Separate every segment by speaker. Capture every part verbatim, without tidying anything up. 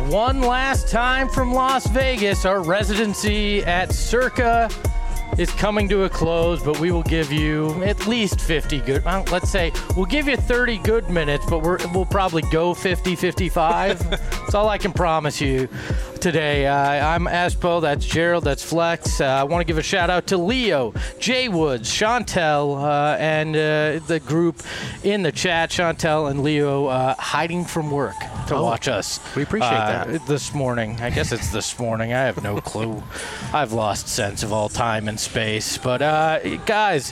Speaker 1: one last time from Las Vegas. Our residency at Circa is coming to a close, but we will give you at least fifty good, well, let's say we'll give you thirty good minutes, but we're, we'll probably go fifty, fifty-five. That's all I can promise you today. Uh, I'm Espo, that's Gerald, that's Flex. Uh, I want to give a shout out to Leo, Jay Woods, Chantel, uh, and uh, the group in the chat. Chantel and Leo uh, hiding from work to
Speaker 2: oh,
Speaker 1: watch us.
Speaker 2: We appreciate
Speaker 1: uh,
Speaker 2: that.
Speaker 1: This morning. I guess it's this morning. I have no clue. I've lost sense of all time and space. But, uh, guys,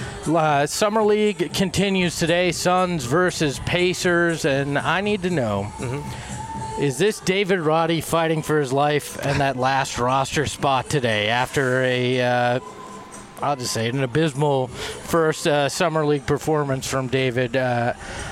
Speaker 1: uh, Summer League continues today. Suns versus Pacers, and I need to know, mm-hmm. is this David Roddy fighting for his life and that last roster spot today after a, uh, I'll just say it, an abysmal first uh, Summer League performance from David? Uh,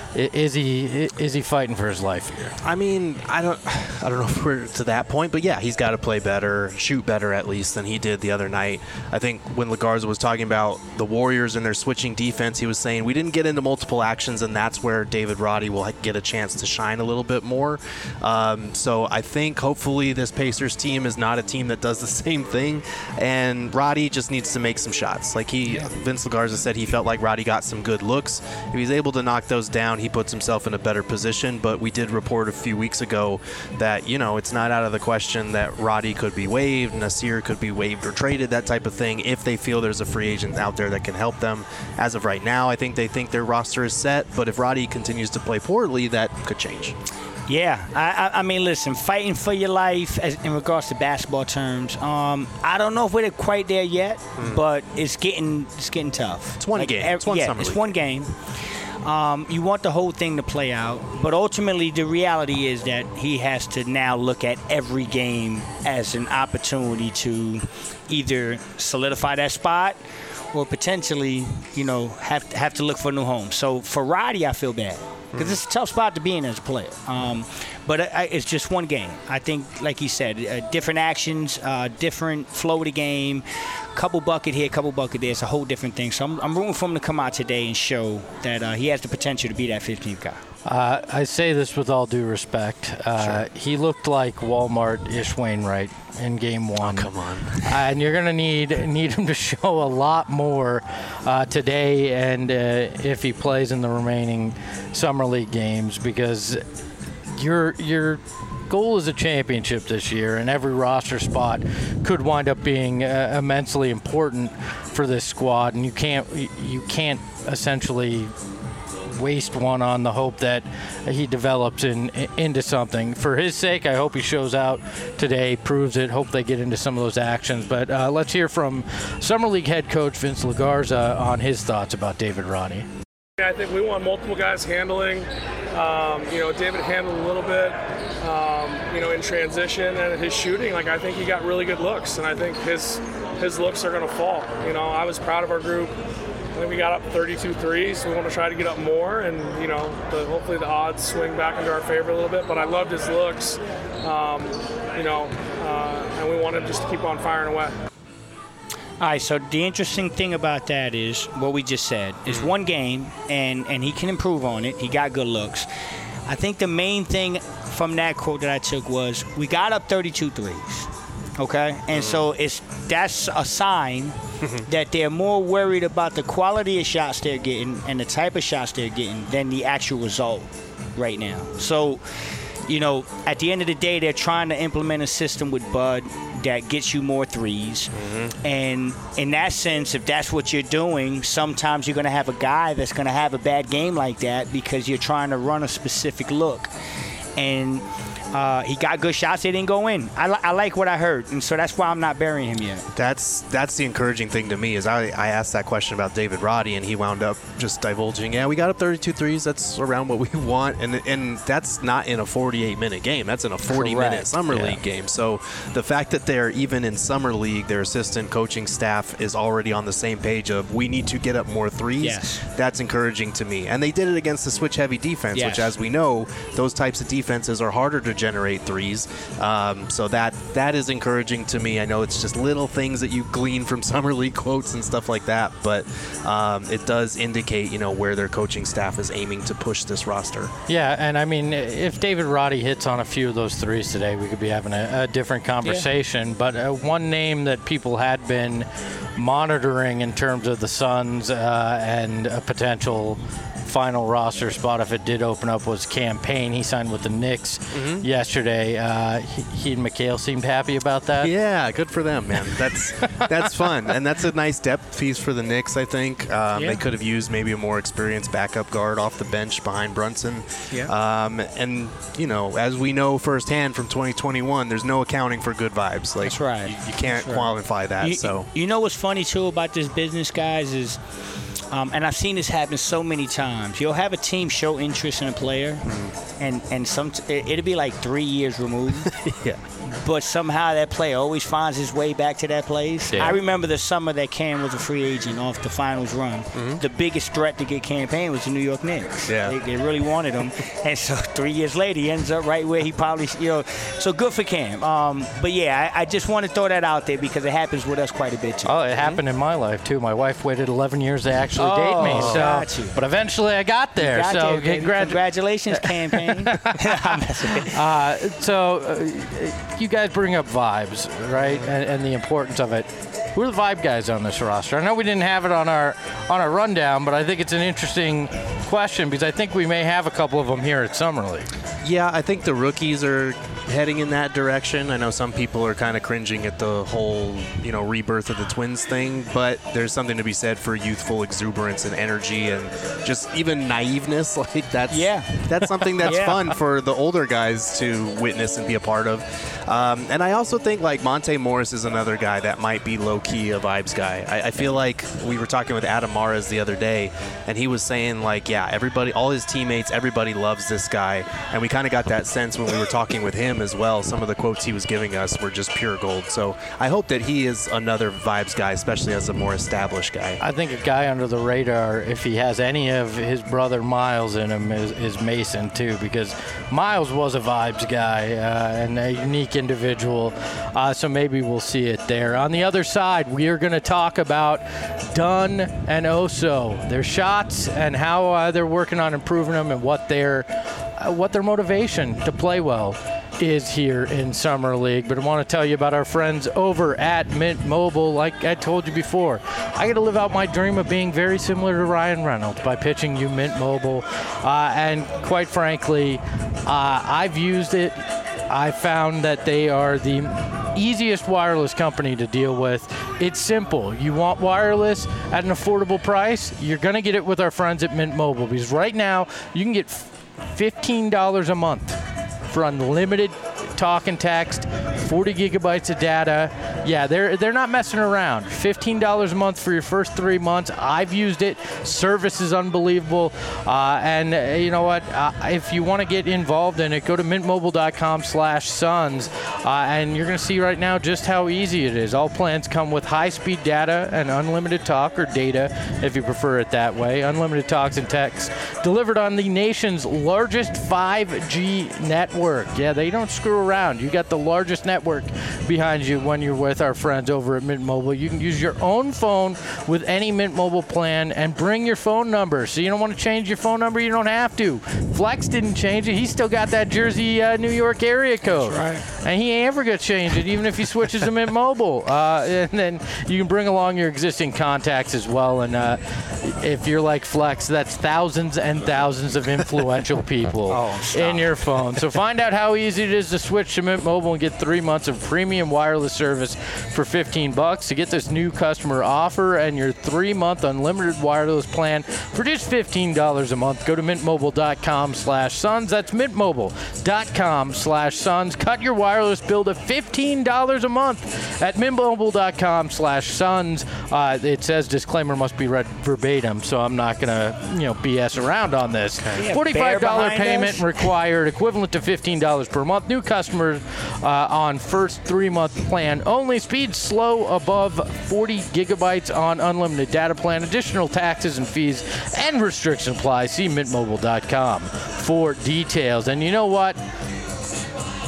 Speaker 1: Is he is he fighting for his life here?
Speaker 2: I mean, I don't I don't know if we're to that point, but yeah, he's got to play better, shoot better at least than he did the other night. I think when LaGarza was talking about the Warriors and their switching defense, he was saying we didn't get into multiple actions, and that's where David Roddy will get a chance to shine a little bit more. Um, so I think hopefully this Pacers team is not a team that does the same thing, and Roddy just needs to make some shots. Like he, yeah. Vince LaGarza said he felt like Roddy got some good looks. If he's able to knock those down, he puts himself in a better position. But we did report a few weeks ago that, you know, it's not out of the question that Roddy could be waived, Nasir could be waived or traded, that type of thing, if they feel there's a free agent out there that can help them. As of right now, I think they think their roster is set, but if Roddy continues to play poorly, that could change.
Speaker 3: Yeah, I, I mean, listen, fighting for your life as, in regards to basketball terms, um, I don't know if we're quite there yet, mm. but it's getting it's getting tough.
Speaker 2: It's one
Speaker 3: like,
Speaker 2: game. It's one
Speaker 3: yeah,
Speaker 2: summer
Speaker 3: it's
Speaker 2: league.
Speaker 3: one game. Um, you want the whole thing to play out, but ultimately the reality is that he has to now look at every game as an opportunity to either solidify that spot or potentially, you know, have to, have to look for a new home. So for Roddy, I feel bad because it's a tough spot to be in as a player. Um, but I, it's just one game. I think, like he said, uh, different actions, uh, different flow of the game, couple bucket here, couple bucket there. It's a whole different thing. So I'm, I'm rooting for him to come out today and show that uh, he has the potential to be that fifteenth guy.
Speaker 1: Uh, I say this with all due respect. Uh, sure. He looked like Walmart-ish Wainwright in game one.
Speaker 2: Oh, come on.
Speaker 1: uh, and you're going to need need him to show a lot more uh, today and uh, if he plays in the remaining Summer League games, because your your goal is a championship this year, and every roster spot could wind up being uh, immensely important for this squad, and you can't you can't essentially waste one on the hope that he develops in, into something. For his sake, I hope he shows out today, proves it, hope they get into some of those actions. But uh, let's hear from Summer League head coach Vince LaGarza on his thoughts about David Roddy.
Speaker 4: I think we want multiple guys handling. Um, you know, David handled a little bit, um, you know, in transition, and his shooting, like, I think he got really good looks, and I think his his looks are going to fall. You know, I was proud of our group. I think we got up thirty-two threes, so we want to try to get up more, and, you know, the, hopefully the odds swing back into our favor a little bit. But I loved his looks, um, you know, uh, and we want him just to keep on firing away.
Speaker 3: All right, so the interesting thing about that is what we just said. It's one game, and, and he can improve on it. He got good looks. I think the main thing from that quote that I took was we got up thirty-two threes, okay? And so it's that's a sign that they're more worried about the quality of shots they're getting and the type of shots they're getting than the actual result right now. So, you know, at the end of the day, they're trying to implement a system with Bud that gets you more threes. Mm-hmm. And in that sense, if that's what you're doing, sometimes you're going to have a guy that's going to have a bad game like that because you're trying to run a specific look. And uh, he got good shots. They didn't go in. I, li- I like what I heard, and so that's why I'm not burying him yet.
Speaker 2: That's that's the encouraging thing to me is I, I asked that question about David Roddy, and he wound up just divulging, yeah, we got up thirty-two threes. That's around what we want, and and that's not in a forty-eight minute game. That's in a forty-minute Summer yeah. League game. So the fact that they're even in Summer League, their assistant coaching staff is already on the same page of we need to get up more threes.
Speaker 3: Yes.
Speaker 2: That's encouraging to me. And they did it against the switch-heavy defense,
Speaker 3: yes.
Speaker 2: which, as we know, those types of defenses are harder to generate threes. Um, so that that is encouraging to me. I know it's just little things that you glean from Summer League quotes and stuff like that, but um, it does indicate, you know, where their coaching staff is aiming to push this roster.
Speaker 1: Yeah, and I mean, if David Roddy hits on a few of those threes today, we could be having a, a different conversation. Yeah. But uh, one name that people had been monitoring in terms of the Suns uh, and a potential final roster spot if it did open up was Cam Payne. He signed with the Knicks mm-hmm. yesterday. Uh, he, he and McHale seemed happy about that.
Speaker 2: Yeah, good for them, man. That's that's fun, and that's a nice depth piece for the Knicks. I think um, yeah. they could have used maybe a more experienced backup guard off the bench behind Brunson.
Speaker 3: Yeah.
Speaker 2: Um, and you know, as we know firsthand from twenty twenty-one, there's no accounting for good vibes. Like,
Speaker 3: that's right.
Speaker 2: You, you can't
Speaker 3: right.
Speaker 2: qualify that.
Speaker 3: You,
Speaker 2: so
Speaker 3: you know what's funny too about this business, guys, is. Um, and I've seen this happen so many times. You'll have a team show interest in a player, mm-hmm. and and some t- it'll be like three years removed.
Speaker 2: yeah.
Speaker 3: But somehow that player always finds his way back to that place.
Speaker 1: Yeah.
Speaker 3: I remember the summer that Cam was a free agent off the finals run. Mm-hmm. The biggest threat to get Cam Payne was the New York Knicks.
Speaker 2: Yeah.
Speaker 3: They, they really wanted him. And so three years later, he ends up right where he probably, you know. So good for Cam. Um, but, yeah, I, I just want to throw that out there because it happens with us quite a bit, too.
Speaker 1: Oh, it happened in my life, too. My wife waited eleven years to actually
Speaker 3: oh,
Speaker 1: date me. So,
Speaker 3: got you.
Speaker 1: But eventually I got there.
Speaker 3: You got
Speaker 1: so
Speaker 3: there,
Speaker 1: congratu-
Speaker 3: Congratulations, Cam Payne.
Speaker 1: uh, so uh, you guys bring up vibes, right, and, and the importance of it. Who are the vibe guys on this roster? I know we didn't have it on our on our rundown, but I think it's an interesting question because I think we may have a couple of them here at Summer League.
Speaker 2: Yeah, I think the rookies are heading in that direction. I know some people are kind of cringing at the whole, you know, rebirth of the Twins thing, but there's something to be said for youthful exuberance and energy and just even naiveness. Like that's
Speaker 3: yeah.
Speaker 2: that's something that's
Speaker 3: yeah.
Speaker 2: fun for the older guys to witness and be a part of. Um, and I also think like Monte Morris is another guy that might be low-key a vibes guy. I, I feel like we were talking with Adam Mares the other day, and he was saying like, yeah, everybody, all his teammates, everybody loves this guy. And we kind of got that sense when we were talking with him as well. Some of the quotes he was giving us were just pure gold. So I hope that he is another vibes guy, especially as a more established guy.
Speaker 1: I think a guy under the radar, if he has any of his brother Miles in him, is, is Mason too, because Miles was a vibes guy uh, and a unique individual. Uh, so maybe we'll see it there. On the other side, we are going to talk about Dunn and Oso, their shots and how uh, they're working on improving them and what their uh, what their motivation to play well is here in Summer League. But I want to tell you about our friends over at Mint Mobile. Like I told you before, I got to live out my dream of being very similar to Ryan Reynolds by pitching you Mint Mobile. Uh, and quite frankly, uh, I've used it. I found that they are the easiest wireless company to deal with. It's simple. You want wireless at an affordable price? You're going to get it with our friends at Mint Mobile, because right now you can get fifteen dollars a month for unlimited talk and text, forty gigabytes of data. Yeah, they're they're not messing around. fifteen dollars a month for your first three months. I've used it. Service is unbelievable. Uh, and uh, you know what? Uh, if you want to get involved in it, go to mintmobile.com slash suns. Uh, and you're going to see right now just how easy it is. All plans come with high-speed data and unlimited talk or data, if you prefer it that way. Unlimited talks and texts delivered on the nation's largest five G network. Yeah, they don't screw around. You got the largest network behind you when you're with our friends over at Mint Mobile. You can use your own phone with any Mint Mobile plan and bring your phone number. So you don't want to change your phone number, you don't have to. Flex didn't change it. He's still got that Jersey, uh, New York area code.
Speaker 3: That's right.
Speaker 1: And he ain't ever going to change it, even if he switches to Mint Mobile. Uh, and then you can bring along your existing contacts as well. And uh, if you're like Flex, that's thousands and thousands of influential people
Speaker 3: oh,
Speaker 1: in your phone. So find out how easy it is to switch to Mint Mobile and get three months of premium wireless service for fifteen bucks. To get this new customer offer and your three-month unlimited wireless plan for just fifteen dollars a month, go to mintmobile.com slash suns. That's mintmobile.com slash suns. Cut your wireless bill to fifteen dollars a month at mintmobile.com slash suns. Uh, it says disclaimer must be read verbatim, so I'm not going to, you know, B S around on this.
Speaker 3: Yeah,
Speaker 1: forty-five dollars payment
Speaker 3: us.
Speaker 1: required, equivalent to fifteen dollars per month. New customers uh, on first three-month plan only. Speed slow above forty gigabytes on unlimited data plan. Additional taxes and fees and restrictions apply. See mint mobile dot com for details. And you know what?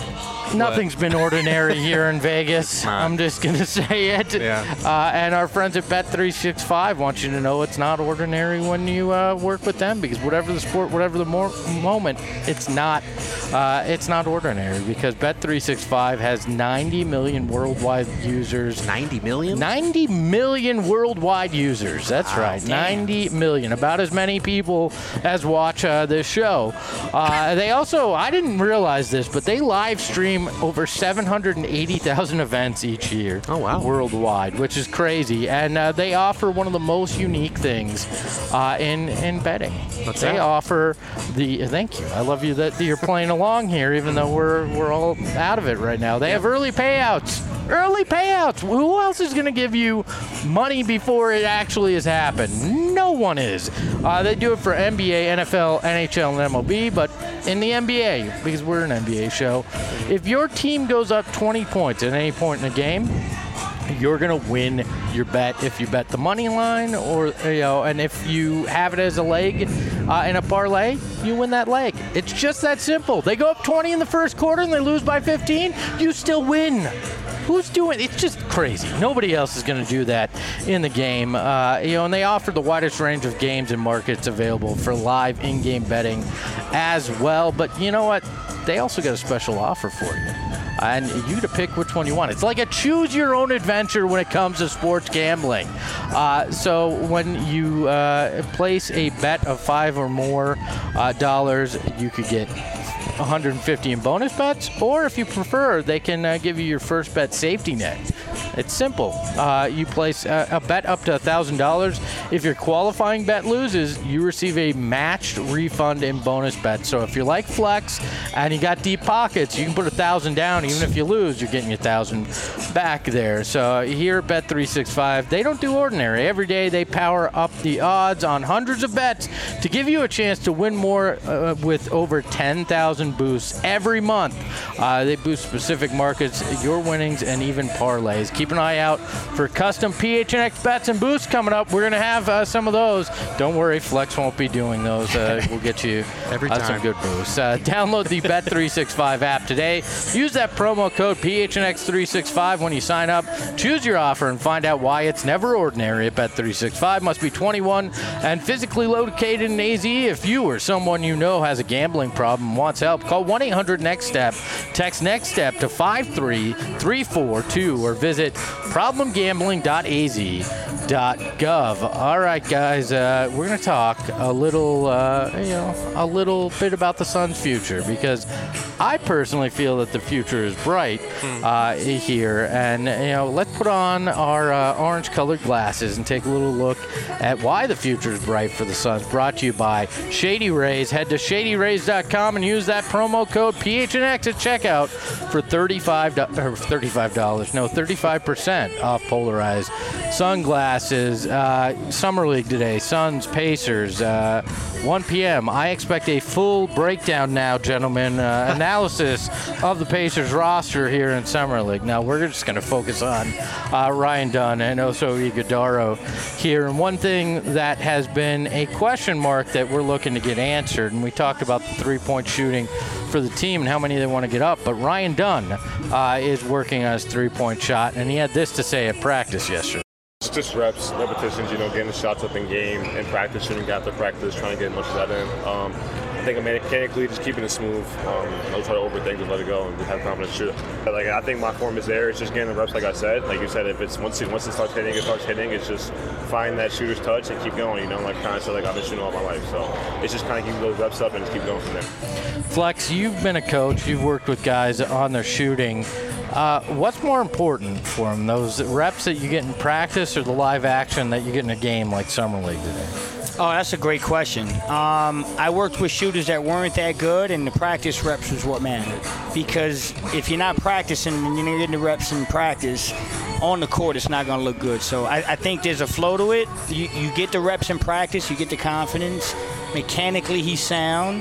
Speaker 1: Nothing's been ordinary here in Vegas. I'm just going to say it.
Speaker 2: Yeah.
Speaker 1: Uh, and our friends at Bet three sixty-five want you to know it's not ordinary when you uh, work with them, because whatever the sport, whatever the more moment, it's not uh, it's not ordinary, because Bet three sixty-five has ninety million worldwide users.
Speaker 2: ninety million?
Speaker 1: ninety million worldwide users. That's
Speaker 2: Wow.
Speaker 1: right.
Speaker 3: Damn.
Speaker 1: ninety million. About as many people as watch uh, this show. Uh, they also, I didn't realize this, but they live stream over seven hundred eighty thousand events each year.
Speaker 2: Oh, wow.
Speaker 1: Worldwide, which is crazy. And uh, they offer one of the most unique things uh, in, in betting.
Speaker 2: What's
Speaker 1: they
Speaker 2: that?
Speaker 1: offer the, thank you. I love you that you're playing along here, even though we're, we're all out of it right now. They have early payouts. Early payouts. Who else is going to give you money before it actually has happened? No one is. Uh, they do it for N B A, N F L, N H L, and M L B, but in the N B A, because we're an N B A show, if your team goes up twenty points at any point in the game, you're going to win your bet if you bet the money line, or, you know, and if you have it as a leg uh, in a parlay, you win that leg. It's just that simple. They go up twenty in the first quarter and they lose by fifteen, you still win. Who's doing it? It's just crazy. Nobody else is going to do that in the game. Uh, you know, and they offer the widest range of games and markets available for live in-game betting as well. But you know what? They also got a special offer for you. And you to pick which one you want. It's like a choose-your-own adventure when it comes to sports gambling. Uh, so when you uh, place a bet of five or more uh, dollars, you could get one hundred fifty in bonus bets, or if you prefer, they can uh, give you your first bet safety net. It's simple. Uh, you place a, a bet up to one thousand dollars. If your qualifying bet loses, you receive a matched refund in bonus bets. So if you're like Flex and you got deep pockets, you can put one thousand dollars down. Even if you lose, you're getting your one thousand dollars back there. So here at Bet three sixty-five, they don't do ordinary. Every day they power up the odds on hundreds of bets to give you a chance to win more uh, with over ten thousand boosts every month. Uh, they boost specific markets, your winnings, and even parlays. Keep an eye out for custom P H N X bets and boosts coming up. We're going to have uh, some of those. Don't worry, Flex won't be doing those. Uh, we'll get you
Speaker 2: Every
Speaker 1: uh,
Speaker 2: time.
Speaker 1: some good boosts. Uh, download the Bet three sixty-five app today. Use that promo code P H N X three sixty-five when you sign up. Choose your offer and find out why it's never ordinary at Bet three sixty-five. Must be twenty-one and physically located in A Z. If you or someone you know has a gambling problem and wants help, call one eight hundred next step. Text NEXTSTEP to five three three four two or visit problem gambling dot a z dot gov. All right, guys, uh, we're going to talk a little, uh, you know, a little bit about the Suns' future, because I personally feel that the future is bright uh, here. And, you know, let's put on our uh, orange-colored glasses and take a little look at why the future is bright for the Suns. Brought to you by Shady Rays. Head to shady rays dot com and use that promo code P H N X at checkout for thirty-five dollars, or thirty-five dollars, no, thirty-five percent off polarized sunglasses. Uh, Summer League today, Suns, Pacers, uh, one p.m. I expect a full breakdown now, gentlemen, uh, analysis of the Pacers roster here in Summer League. Now, we're just going to focus on uh, Ryan Dunn and Oso Ighodaro here. And one thing that has been a question mark that we're looking to get answered, and we talked about the three-point shooting for the team and how many they want to get up, but Ryan Dunn uh, is working on his three-point shot, and he had this to say at practice yesterday.
Speaker 5: It's just reps, repetitions, you know, getting the shots up in game and practice, shooting after practice, trying to get as much of that in. Um, I think mechanically just keeping it smooth. Um, don't try to overthink, just let it go and just have confidence shoot. But, like, I think my form is there. It's just getting the reps, like I said. Like you said, if it's once it, once it starts hitting, it starts hitting. It's just find that shooter's touch and keep going, you know, like kind of said, like I've been shooting all my life. So it's just kind of keeping those reps up and just keep going from there.
Speaker 1: Flex, you've been a coach. You've worked with guys on their shooting. Uh, what's more important for them, those reps that you get in practice or the live action that you get in a game like Summer League today?
Speaker 3: Oh, that's a great question. Um, I worked with shooters that weren't that good, and the practice reps was what mattered. Because if you're not practicing and you're not getting the reps in practice, on the court, it's not going to look good. So I, I think there's a flow to it. You, you get the reps in practice, you get the confidence. Mechanically, he's sound.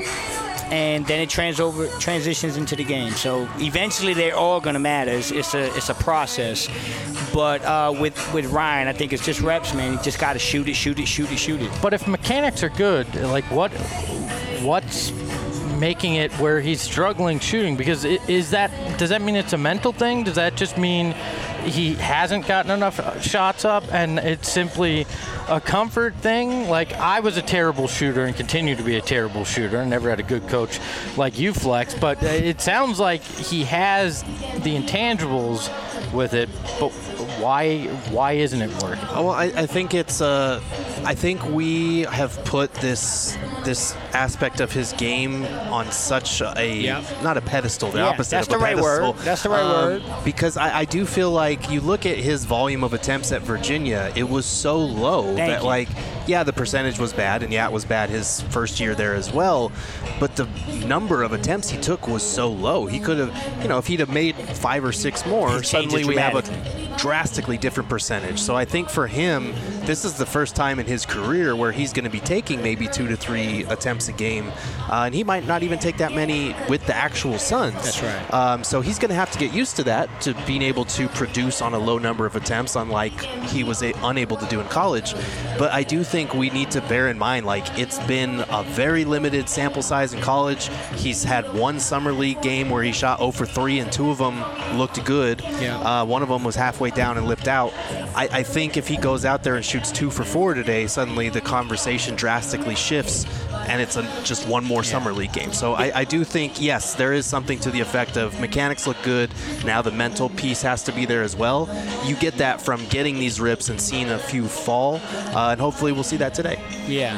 Speaker 3: And then it trans over, transitions into the game. So eventually they're all going to matter. It's, it's, a, it's a process. But uh, with, with Ryan, I think it's just reps, man. You just got to shoot it, shoot it, shoot it, shoot it.
Speaker 1: But if mechanics are good, like what, what's making it where he's struggling shooting? Because it, is that does that mean it's a mental thing? Does that just mean he hasn't gotten enough shots up and it's simply a comfort thing? Like, I was a terrible shooter and continue to be a terrible shooter. I never had a good coach like you, Flex, but it sounds like he has the intangibles with it, but why why isn't it working?
Speaker 2: Well, I, I think it's uh, I think we have put this this aspect of his game on such a
Speaker 3: Yep.
Speaker 2: not a pedestal, the
Speaker 3: Yeah,
Speaker 2: opposite
Speaker 3: that's
Speaker 2: of a
Speaker 3: the right
Speaker 2: pedestal.
Speaker 3: word. That's the right word.
Speaker 2: Because I, I do feel like you look at his volume of attempts at Virginia, it was so low
Speaker 3: Thank
Speaker 2: that
Speaker 3: you.
Speaker 2: like yeah, the percentage was bad, and yeah, it was bad his first year there as well. But the number of attempts he took was so low. He could have, you know, if he'd have made five or six more,
Speaker 3: It changes
Speaker 2: suddenly we have a
Speaker 3: dramatically.
Speaker 2: drastically different percentage. So I think for him, this is the first time in his career where he's going to be taking maybe two to three attempts a game, uh, and he might not even take that many with the actual Suns.
Speaker 3: That's right.
Speaker 2: Um, so he's going to have to get used to that, to being able to produce on a low number of attempts, unlike he was a- unable to do in college. But I do think we need to bear in mind, like, it's been a very limited sample size in college. He's had one summer league game where he shot zero for three, and two of them looked good.
Speaker 3: Yeah.
Speaker 2: Uh, one of them was halfway down and lipped out. I, I think if he goes out there and shoots two for four today, suddenly the conversation drastically shifts, and it's a, just one more summer league game. So I, I do think, yes, there is something to the effect of mechanics look good. Now the mental piece has to be there as well. You get that from getting these rips and seeing a few fall, uh, and hopefully we'll see that today.
Speaker 3: Yeah.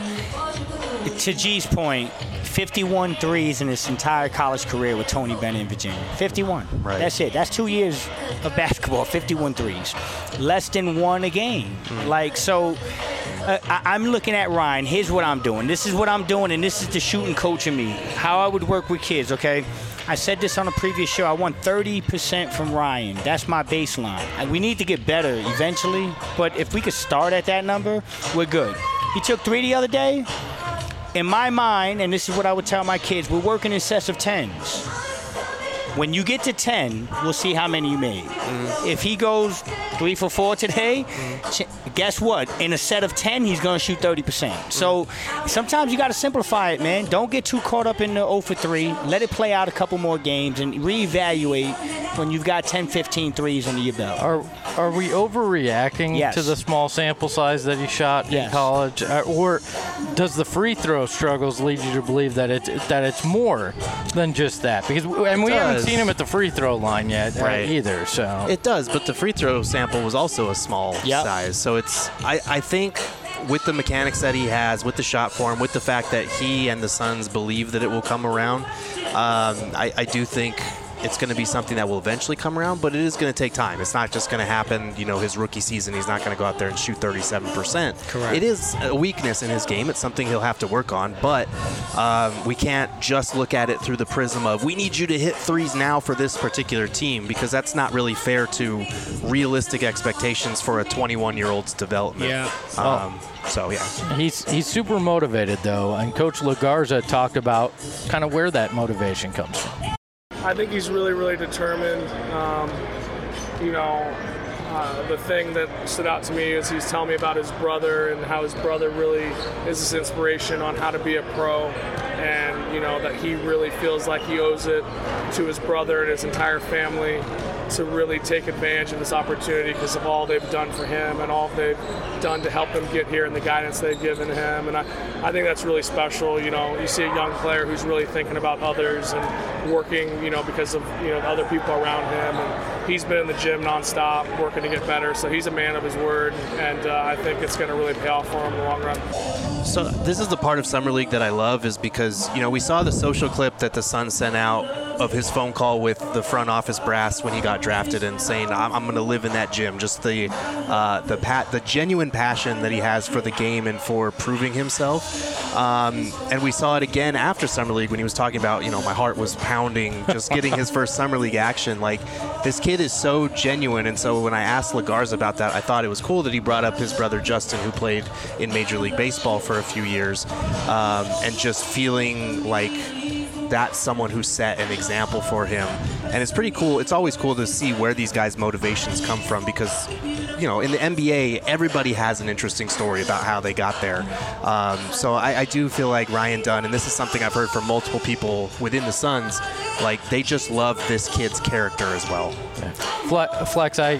Speaker 3: To G's point, fifty-one threes in his entire college career with Tony Bennett in Virginia. fifty-one.
Speaker 2: Right.
Speaker 3: That's it. That's two years of basketball, fifty-one threes. Less than one a game.
Speaker 2: Mm.
Speaker 3: Like, so uh, I, I'm looking at Ryan. Here's what I'm doing. This is what I'm doing, and this is the shooting coach in me. How I would work with kids, okay? I said this on a previous show. I want thirty percent from Ryan. That's my baseline. And we need to get better eventually, but if we could start at that number, we're good. He took three the other day. In my mind, and this is what I would tell my kids, we're working in sets of tens. When you get to ten, we'll see how many you made. Mm. If he goes three for four today, mm. ch- guess what? In a set of ten, he's going to shoot thirty percent. Mm. So sometimes you got to simplify it, man. Don't get too caught up in the zero for three. Let it play out a couple more games and reevaluate when you've got ten, fifteen threes under your belt.
Speaker 1: Are are we overreacting
Speaker 3: Yes.
Speaker 1: to the small sample size that he shot
Speaker 3: Yes.
Speaker 1: in college, uh, or does the free throw struggles lead you to believe that it's that it's more than just that? Because and we haven't
Speaker 2: does.
Speaker 1: seen him at the free throw line yet uh,
Speaker 2: Right.
Speaker 1: either. So
Speaker 2: It does, but the free throw sample was also a small
Speaker 3: Yep.
Speaker 2: size. So it's, I, I think with the mechanics that he has, with the shot form, with the fact that he and the Suns believe that it will come around, um, I, I do think it's going to be something that will eventually come around, but it is going to take time. It's not just going to happen, you know, his rookie season. He's not going to go out there and shoot thirty-seven percent.
Speaker 3: Correct.
Speaker 2: It is a weakness in his game. It's something he'll have to work on, but um, we can't just look at it through the prism of we need you to hit threes now for this particular team, because that's not really fair to realistic expectations for a twenty-one-year-old's development.
Speaker 3: Yeah.
Speaker 2: Um, so, yeah.
Speaker 1: he's he's super motivated though, and Coach LaGarza talked about kind of where that motivation comes from.
Speaker 4: I think he's really, really determined. Um, you know, uh, the thing that stood out to me is he's telling me about his brother and how his brother really is his inspiration on how to be a pro, and you know that he really feels like he owes it to his brother and his entire family to really take advantage of this opportunity because of all they've done for him and all they've done to help him get here and the guidance they've given him. And I, I think that's really special. You know, you see a young player who's really thinking about others and working, you know, because of, you know, the other people around him. And he's been in the gym nonstop working to get better. So he's a man of his word. And uh, I think it's going to really pay off for him in the long run.
Speaker 2: So this is the part of Summer League that I love, is because, you know, we saw the social clip that the Suns sent out of his phone call with the front office brass when he got drafted and saying, I'm, I'm going to live in that gym. Just the uh, the pat, the genuine passion that he has for the game and for proving himself. Um, and we saw it again after Summer League when he was talking about, you know, my heart was pounding just getting his first Summer League action. Like, this kid is so genuine. And so when I asked LaGarza about that, I thought it was cool that he brought up his brother Justin, who played in Major League Baseball for a few years, um, and just feeling like that's someone who set an example for him. And it's pretty cool. It's always cool to see where these guys' motivations come from, because you know, in the N B A, everybody has an interesting story about how they got there. Um, so I, I do feel like Ryan Dunn, and this is something I've heard from multiple people within the Suns, like they just love this kid's character as well.
Speaker 1: Yeah. Flex, I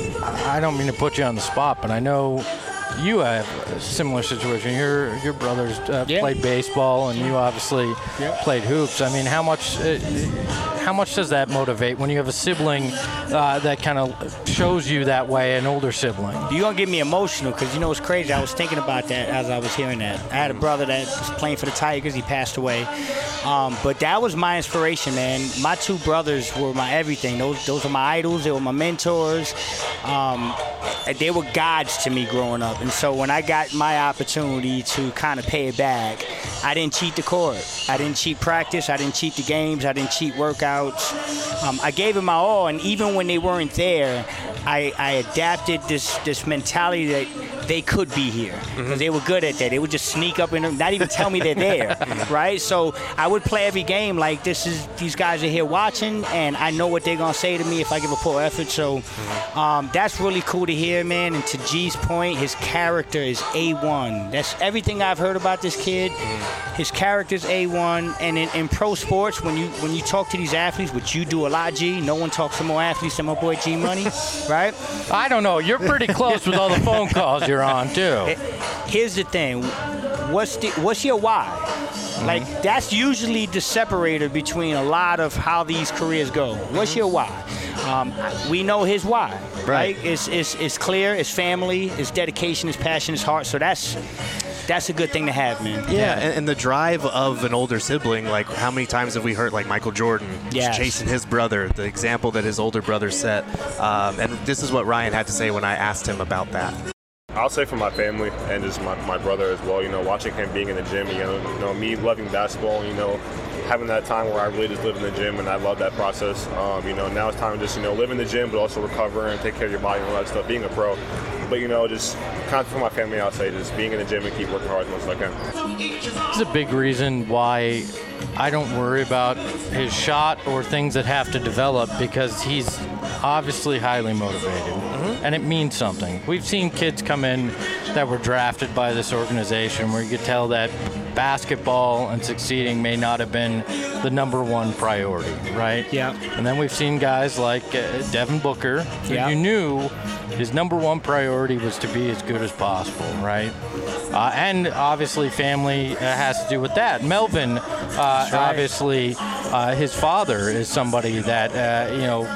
Speaker 1: I don't mean to put you on the spot, but I know you have a similar situation. Your your brothers uh,
Speaker 3: yeah.
Speaker 1: played baseball, and you obviously
Speaker 3: yeah.
Speaker 1: played hoops. I mean, how much uh, how much does that motivate when you have a sibling uh, that kind of shows you that way, an older sibling?
Speaker 3: You're going to get me emotional because, you know, it's crazy. I was thinking about that as I was hearing that. I had a brother that was playing for the Tigers. He passed away. Um, but that was my inspiration, man. My two brothers were my everything. Those those were my idols. They were my mentors. Um, they were gods to me growing up. And so when I got my opportunity to kind of pay it back, I didn't cheat the court. I didn't cheat practice. I didn't cheat the games. I didn't cheat workouts. Um, I gave it my all, and even when they weren't there, I, I adapted this this mentality that they could be here because mm-hmm. they were good at that. They would just sneak up and not even tell me they're there, right? So I would play every game like this is these guys are here watching, and I know what they're gonna say to me if I give a poor effort. So um, that's really cool to hear, man. And to G's point, his character is A one. That's everything I've heard about this kid. His character's A one, and in, in pro sports, when you when you talk to these athletes, which you do a lot, G, no one talks to more athletes than my boy G Money, right?
Speaker 1: I don't know. You're pretty close with all the phone calls you're on too.
Speaker 3: Here's the thing. What's the what's your why? Mm-hmm. Like that's usually the separator between a lot of how these careers go. What's your why? Um, we know his why, right? right? It's, it's it's clear. It's family. It's dedication. It's passion. It's heart. So that's that's a good thing to have, man.
Speaker 2: Yeah, yeah. And, and the drive of an older sibling. Like how many times have we heard like Michael Jordan
Speaker 3: yes.
Speaker 2: chasing his brother? The example that his older brother set. Um, and this is what Ryan had to say when I asked him about that.
Speaker 5: I'll say for my family and just my, my brother as well, you know, watching him being in the gym, you know, you know, me loving basketball, you know, having that time where I really just live in the gym, and I love that process. Um, you know, now it's time to just, you know, live in the gym, but also recover and take care of your body and all that stuff, being a pro. But, you know, just kind of for my family, I'll say just being in the gym and keep working hard as much as I can.
Speaker 1: It's a big reason why I don't worry about his shot or things that have to develop, because he's obviously highly motivated, mm-hmm. and it means something. We've seen kids come in that were drafted by this organization where you could tell that basketball and succeeding may not have been the number one priority, right?
Speaker 3: Yeah.
Speaker 1: And then we've seen guys like uh, Devin Booker, who
Speaker 3: yeah.
Speaker 1: you knew his number one priority was to be as good as possible, right? Uh, and obviously family uh, has to do with that. Melvin, uh, right. obviously, uh, his father is somebody that, uh, you know,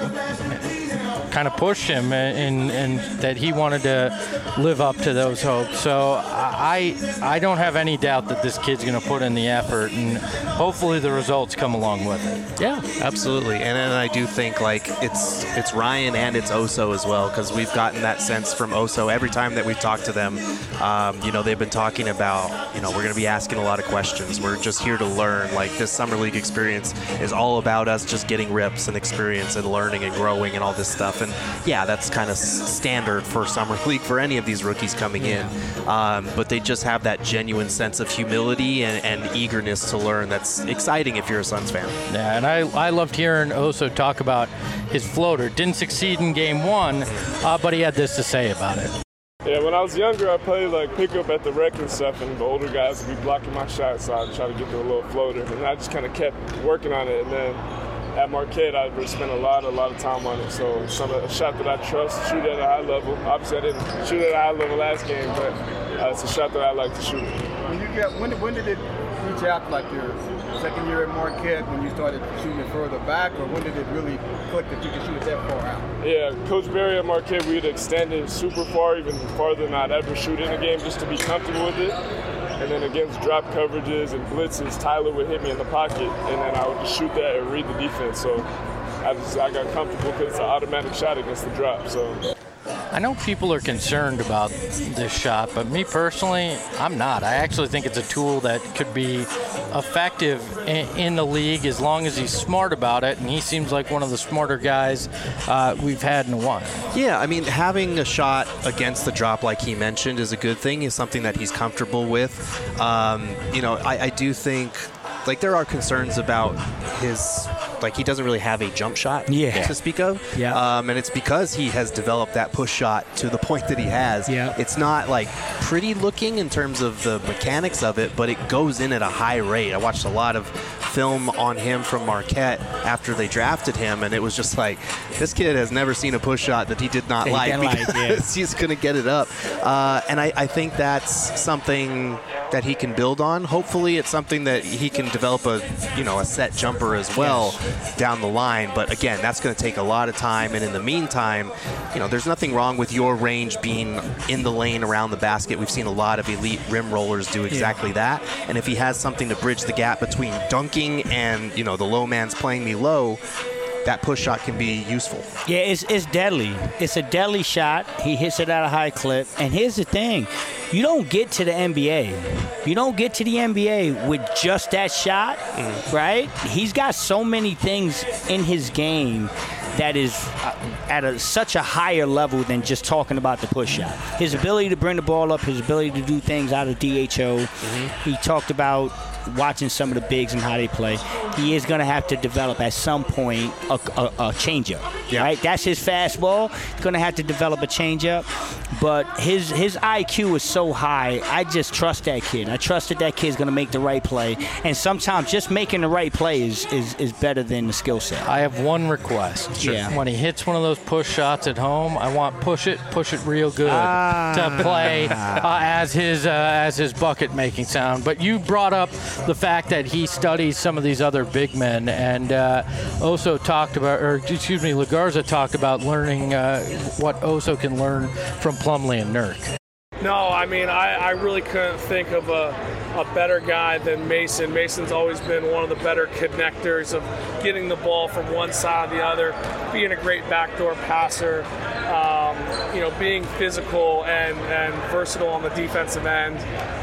Speaker 1: kind of pushed him and and that he wanted to live up to those hopes. So I I don't have any doubt that this kid's going to put in the effort, and hopefully the results come along with it.
Speaker 2: Yeah, absolutely. And then I do think like it's it's Ryan and it's Oso as well, because we've gotten that sense from Oso every time that we've talked to them. Um, you know, they've been talking about, you know, we're going to be asking a lot of questions. We're just here to learn. Like this summer league experience is all about us just getting reps and experience and learning and growing and all this stuff. And yeah, that's kind of standard for summer league for any of these rookies coming in. Um, but they just have that genuine sense of humility and, and eagerness to learn. That's exciting if you're a Suns fan.
Speaker 1: Yeah, and I, I loved hearing Oso talk about his floater. Didn't succeed in game one, uh, but he had this to say about it.
Speaker 4: Yeah, when I was younger, I played like pickup at the rec and stuff, and the older guys would be blocking my shots, so I'd try to get to a little floater. And I just kind of kept working on it, and then at Marquette, I really spent a lot, a lot of time on it. So some a shot that I trust, shoot at a high level. Obviously, I didn't shoot at a high level last game, but uh, it's a shot that I like to shoot.
Speaker 6: When you got, when, when did it reach out, like your second year at Marquette, when you started shooting it further back, or when did it really click that you could shoot it that far out?
Speaker 4: Yeah, Coach Barry at Marquette, we'd extend it super far, even farther than I'd ever shoot in a game, just to be comfortable with it. And then against drop coverages and blitzes, Tyler would hit me in the pocket, and then I would just shoot that and read the defense. So I just I got comfortable because it's an automatic shot against the drop. So
Speaker 1: I know people are concerned about this shot, but me personally, I'm not. I actually think it's a tool that could be effective in, in the league as long as he's smart about it, and he seems like one of the smarter guys uh, we've had in a while.
Speaker 2: Yeah, I mean, having a shot against the drop, like he mentioned, is a good thing. Is something that he's comfortable with. Um, you know, I, I do think, like, there are concerns about his like he doesn't really have a jump shot
Speaker 3: Yeah.
Speaker 2: to speak of.
Speaker 3: Yeah.
Speaker 2: Um, and it's because he has developed that push shot to the point that he has.
Speaker 3: Yeah.
Speaker 2: It's not like pretty looking in terms of the mechanics of it, but it goes in at a high rate. I watched a lot of film on him from Marquette after they drafted him, and it was just like, this kid has never seen a push shot that he did not
Speaker 3: That he
Speaker 2: like
Speaker 3: didn't like,
Speaker 2: because
Speaker 3: yeah.
Speaker 2: he's going to get it up. Uh, and I, I think that's something that he can build on. Hopefully it's something that he can develop a, you know, a set jumper as well yes. down the line. But again, that's going to take a lot of time. And in the meantime, you know, there's nothing wrong with your range being in the lane around the basket. We've seen a lot of elite rim rollers do exactly yeah. that. And if he has something to bridge the gap between dunking and, you know, the low man's playing me low, that push shot can be useful.
Speaker 3: Yeah, it's, it's deadly. It's a deadly shot. He hits it at a high clip. And here's the thing. You don't get to the N B A. You don't get to the N B A with just that shot, mm. right? He's got so many things in his game that is uh, at a, such a higher level than just talking about the push shot. His ability to bring the ball up, his ability to do things out of D H O. Mm-hmm. He talked about watching some of the bigs and how they play. He is going to have to develop at some point a, a, a changeup. Yeah. Right? That's his fastball. He's going to have to develop a changeup. But his his I Q is so high. I just trust that kid. I trust that that kid's going to make the right play. And sometimes just making the right play is is, is better than the skill set.
Speaker 1: I have one request.
Speaker 3: Sure. Yeah.
Speaker 1: When he hits one of those push shots at home, I want push it, push it real good
Speaker 3: ah.
Speaker 1: to play uh, as his uh, as his bucket making sound. But you brought up the fact that he studies some of these other big men, and uh, Oso talked about, or excuse me, Lagarza talked about learning uh, what Oso can learn from Plumlee and Nurk.
Speaker 4: No, I mean, I, I really couldn't think of a, a better guy than Mason. Mason's always been one of the better connectors of getting the ball from one side to the other, being a great backdoor passer, um, you know, being physical and, and versatile on the defensive end.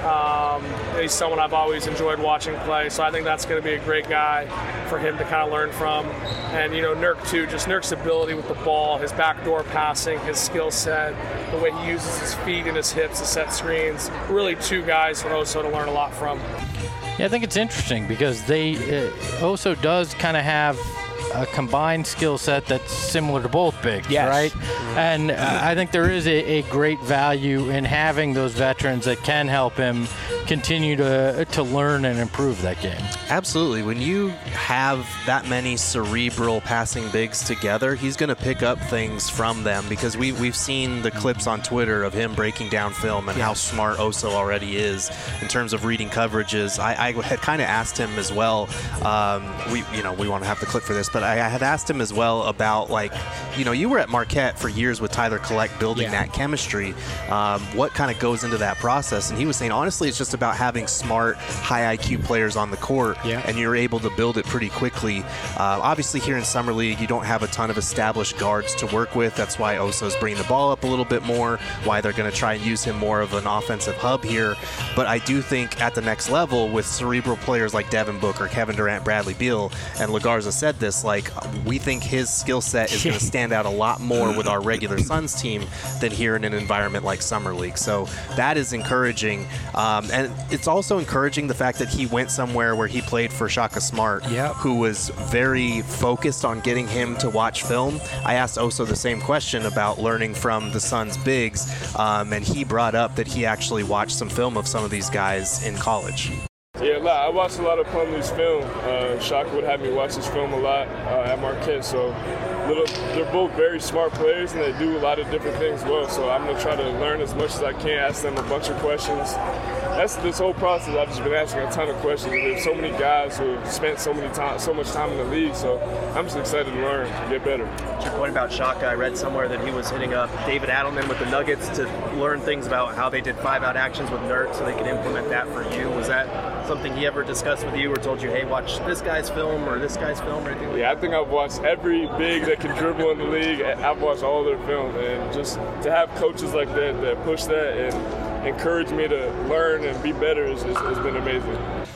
Speaker 4: Um, he's someone I've always enjoyed watching play, so I think that's going to be a great guy for him to kind of learn from. And, you know, Nurk, too, just Nurk's ability with the ball, his backdoor passing, his skill set, the way he uses his feet and his hips to set screens. Really two guys for Oso to learn a lot from.
Speaker 1: Yeah, I think it's interesting because they uh, Oso does kind of have a combined skill set that's similar to both bigs,
Speaker 3: yes.
Speaker 1: right? Mm-hmm. And uh, I think there is a, a great value in having those veterans that can help him continue to to learn and improve that game.
Speaker 2: Absolutely. When you have that many cerebral passing bigs together, he's going to pick up things from them because we, we've seen the clips on Twitter of him breaking down film and yeah. how smart Oso already is in terms of reading coverages. I, I had kind of asked him as well, um, we you know, we want to have the clip for this, but I, I had asked him as well about, like, you know, you were at Marquette for years with Tyler Collect building yeah. that chemistry. Um, what kind of goes into that process? And he was saying, honestly, it's just about having smart, high I Q players on the court, yeah. and you're able to build it pretty quickly. Uh, obviously, here in Summer League, you don't have a ton of established guards to work with. That's why Oso's bringing the ball up a little bit more, why they're going to try and use him more of an offensive hub here. But I do think at the next level, with cerebral players like Devin Booker, Kevin Durant, Bradley Beal, and Lagarza said this, like, we think his skill set is going to stand out a lot more with our regular Suns team than here in an environment like Summer League. So that is encouraging. Um, and it's also encouraging the fact that he went somewhere where he played for Shaka Smart,
Speaker 3: yep.
Speaker 2: who was very focused on getting him to watch film. I asked Oso the same question about learning from the Suns bigs, um, and he brought up that he actually watched some film of some of these guys in college.
Speaker 5: Yeah, I watched a lot of Plumlee's film. Uh, Shaka would have me watch his film a lot uh, at Marquette. So little, they're both very smart players, and they do a lot of different things well. So I'm going to try to learn as much as I can, ask them a bunch of questions. That's this whole process. I've just been asking a ton of questions. There's so many guys who have spent so many time, so much time in the league. So I'm just excited to learn, to get better.
Speaker 7: To your point about Shaka, I read somewhere that he was hitting up David Adelman with the Nuggets to learn things about how they did five-out actions with Nurk so they could implement that for you. Was that something he ever discussed with you or told you, hey, watch this guy's film or this guy's film or anything like
Speaker 5: yeah,
Speaker 7: that?
Speaker 5: I think I've watched every big that can dribble in the league. I've watched all their film. And just to have coaches like that that push that and encourage me to learn and be better has been amazing.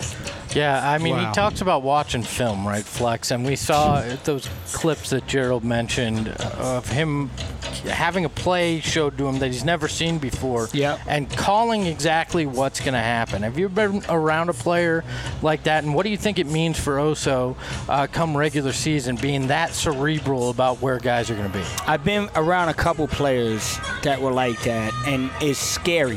Speaker 1: Yeah, I mean,
Speaker 3: wow.
Speaker 1: he talks about watching film, right, Flex? And we saw those clips that Gerald mentioned of him having a play showed to him that he's never seen before,
Speaker 3: Yep.
Speaker 1: and calling exactly what's going to happen. Have you been around a player like that, and what do you think it means for Oso uh, come regular season, being that cerebral about where guys are going to be?
Speaker 3: I've been around a couple players that were like that, and it's scary.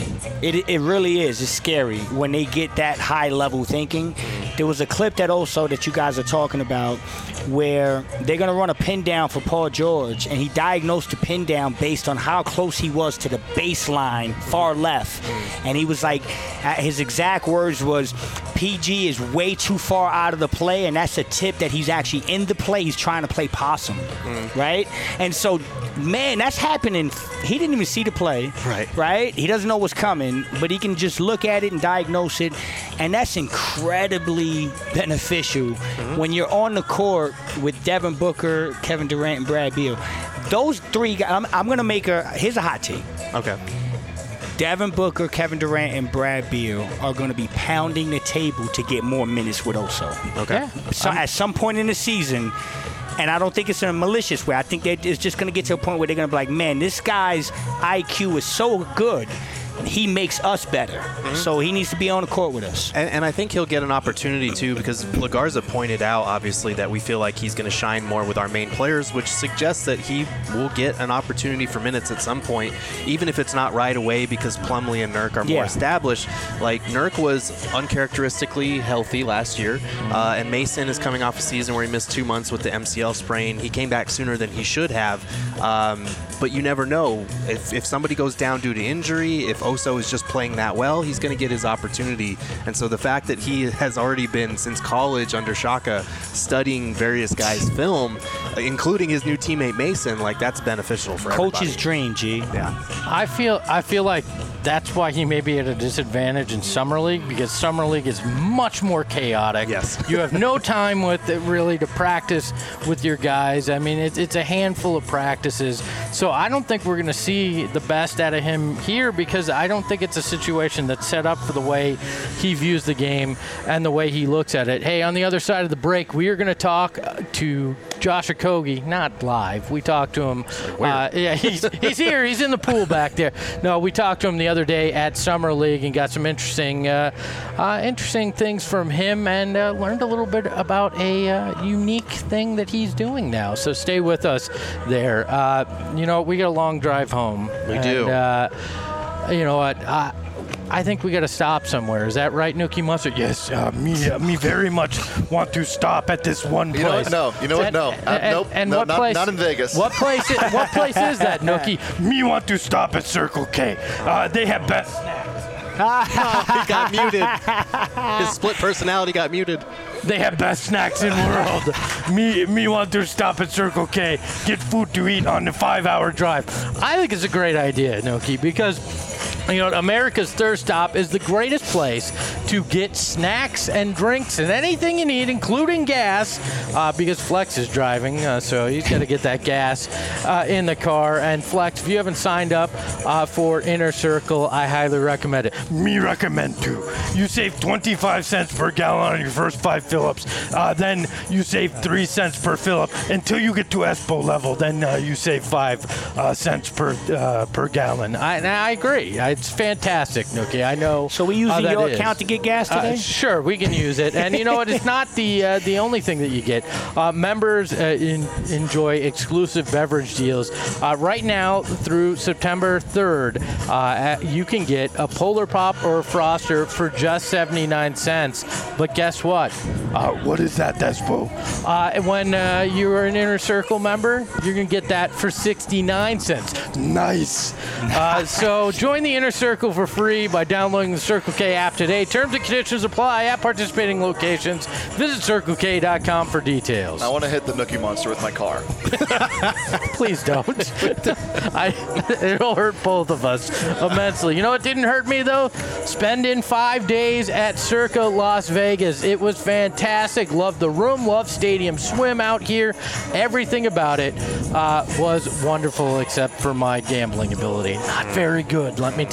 Speaker 3: It, it really is. It's scary when they get that high-level thinking. There was a clip that also that you guys are talking about where they're going to run a pin down for Paul George, and he diagnosed the pin down based on how close he was to the baseline, far left. And he was like, his exact words was, P G is way too far out of the play, and that's a tip that he's actually in the play. He's trying to play possum, mm. right? And so, man, that's happening. He didn't even see the play,
Speaker 2: right?
Speaker 3: Right? He doesn't know what's coming, but he can just look at it and diagnose it, and that's incredibly beneficial mm-hmm. when you're on the court with Devin Booker, Kevin Durant, and Brad Beal. Those three guys, I'm, I'm going to make a, here's a hot take.
Speaker 2: Okay.
Speaker 3: Devin Booker, Kevin Durant, and Brad Beal are going to be pounding the table to get more minutes with Oso.
Speaker 2: Okay.
Speaker 1: Yeah.
Speaker 3: So at some point in the season, and I don't think it's in a malicious way, I think that it's just going to get to a point where they're going to be like, man, this guy's I Q is so good, he makes us better. Mm-hmm. So he needs to be on the court with us.
Speaker 2: And, and I think he'll get an opportunity, too, because LaGarza pointed out, obviously, that we feel like he's going to shine more with our main players, which suggests that he will get an opportunity for minutes at some point, even if it's not right away because Plumlee and Nurk are more
Speaker 3: Yeah.
Speaker 2: established. Like, Nurk was uncharacteristically healthy last year, mm-hmm. uh, and Mason is coming off a season where he missed two months with the M C L sprain. He came back sooner than he should have, um, but you never know. If, if somebody goes down due to injury, if Oso is just playing that well, he's going to get his opportunity. And so the fact that he has already been, since college under Shaka, studying various guys' film, including his new teammate Mason, like, that's beneficial for everybody.
Speaker 3: Coach's dream, G.
Speaker 2: Yeah.
Speaker 1: I feel I feel like that's why he may be at a disadvantage in Summer League, because Summer League is much more chaotic.
Speaker 2: Yes.
Speaker 1: You have no time with it really to practice with your guys. I mean, it's, it's a handful of practices. So I don't think we're going to see the best out of him here, because I don't think it's a situation that's set up for the way he views the game and the way he looks at it. Hey, on the other side of the break, we are going to talk to Josh Okogie, not live. We talked to him. Uh, yeah, he's, he's here. He's in the pool back there. No, we talked to him the other day at Summer League and got some interesting uh, uh, interesting things from him, and uh, learned a little bit about a uh, unique thing that he's doing now. So stay with us there. Uh, you know, we got a long drive home.
Speaker 2: We
Speaker 1: and,
Speaker 2: do.
Speaker 1: Uh, you know what? I, I think we got to stop somewhere. Is that right, Nookie Mustard? Yes, uh, me, uh, me very much want to stop at this one place.
Speaker 8: You know what? No, you know what? No,
Speaker 1: And,
Speaker 8: uh,
Speaker 1: and,
Speaker 8: nope.
Speaker 1: and
Speaker 8: no,
Speaker 1: what
Speaker 8: not,
Speaker 1: place?
Speaker 8: not in Vegas.
Speaker 1: What place? Is, what place is that, Nookie? Me want to stop at Circle K. Uh, they have best snacks.
Speaker 2: He got muted. His split personality got muted.
Speaker 1: They have best snacks in world. me, me want to stop at Circle K, get food to eat on the five-hour drive. I think it's a great idea, Nookie, because you know, America's Thirst Stop is the greatest place to get snacks and drinks and anything you need, including gas, uh, because Flex is driving, uh, so he's got to get that gas uh, in the car. And Flex, if you haven't signed up uh, for Inner Circle, I highly recommend it. Me recommend too. You save twenty-five cents per gallon on your first five fill-ups. Uh, then you save three cents per fill-up until you get to Espo level. Then uh, you save five uh, cents per uh, per gallon. I, and I agree. I, It's fantastic, Nookie. I know.
Speaker 3: So we using
Speaker 1: how that
Speaker 3: your
Speaker 1: is.
Speaker 3: account to get gas today?
Speaker 1: Uh, sure, we can use it. And you know what? It's not the uh, the only thing that you get. Uh, members uh, in, enjoy exclusive beverage deals. Uh, right now, through September third, uh, you can get a Polar Pop or a Froster for just seventy-nine cents. But guess what? Uh, what is that, Despo? Uh, when uh, you're an Inner Circle member, you're going to get that for sixty-nine cents. Nice. Uh, so join the Inner Circle for free by downloading the Circle K app today. Terms and conditions apply at participating locations. Visit circle k dot com for details.
Speaker 8: I want to hit the Nookie Monster with my car.
Speaker 1: Please don't. I, it'll hurt both of us immensely. You know what didn't hurt me, though? Spending five days at Circa Las Vegas. It was fantastic. Loved the room. Loved Stadium Swim out here. Everything about it uh, was wonderful except for my gambling ability. Not very good, let me tell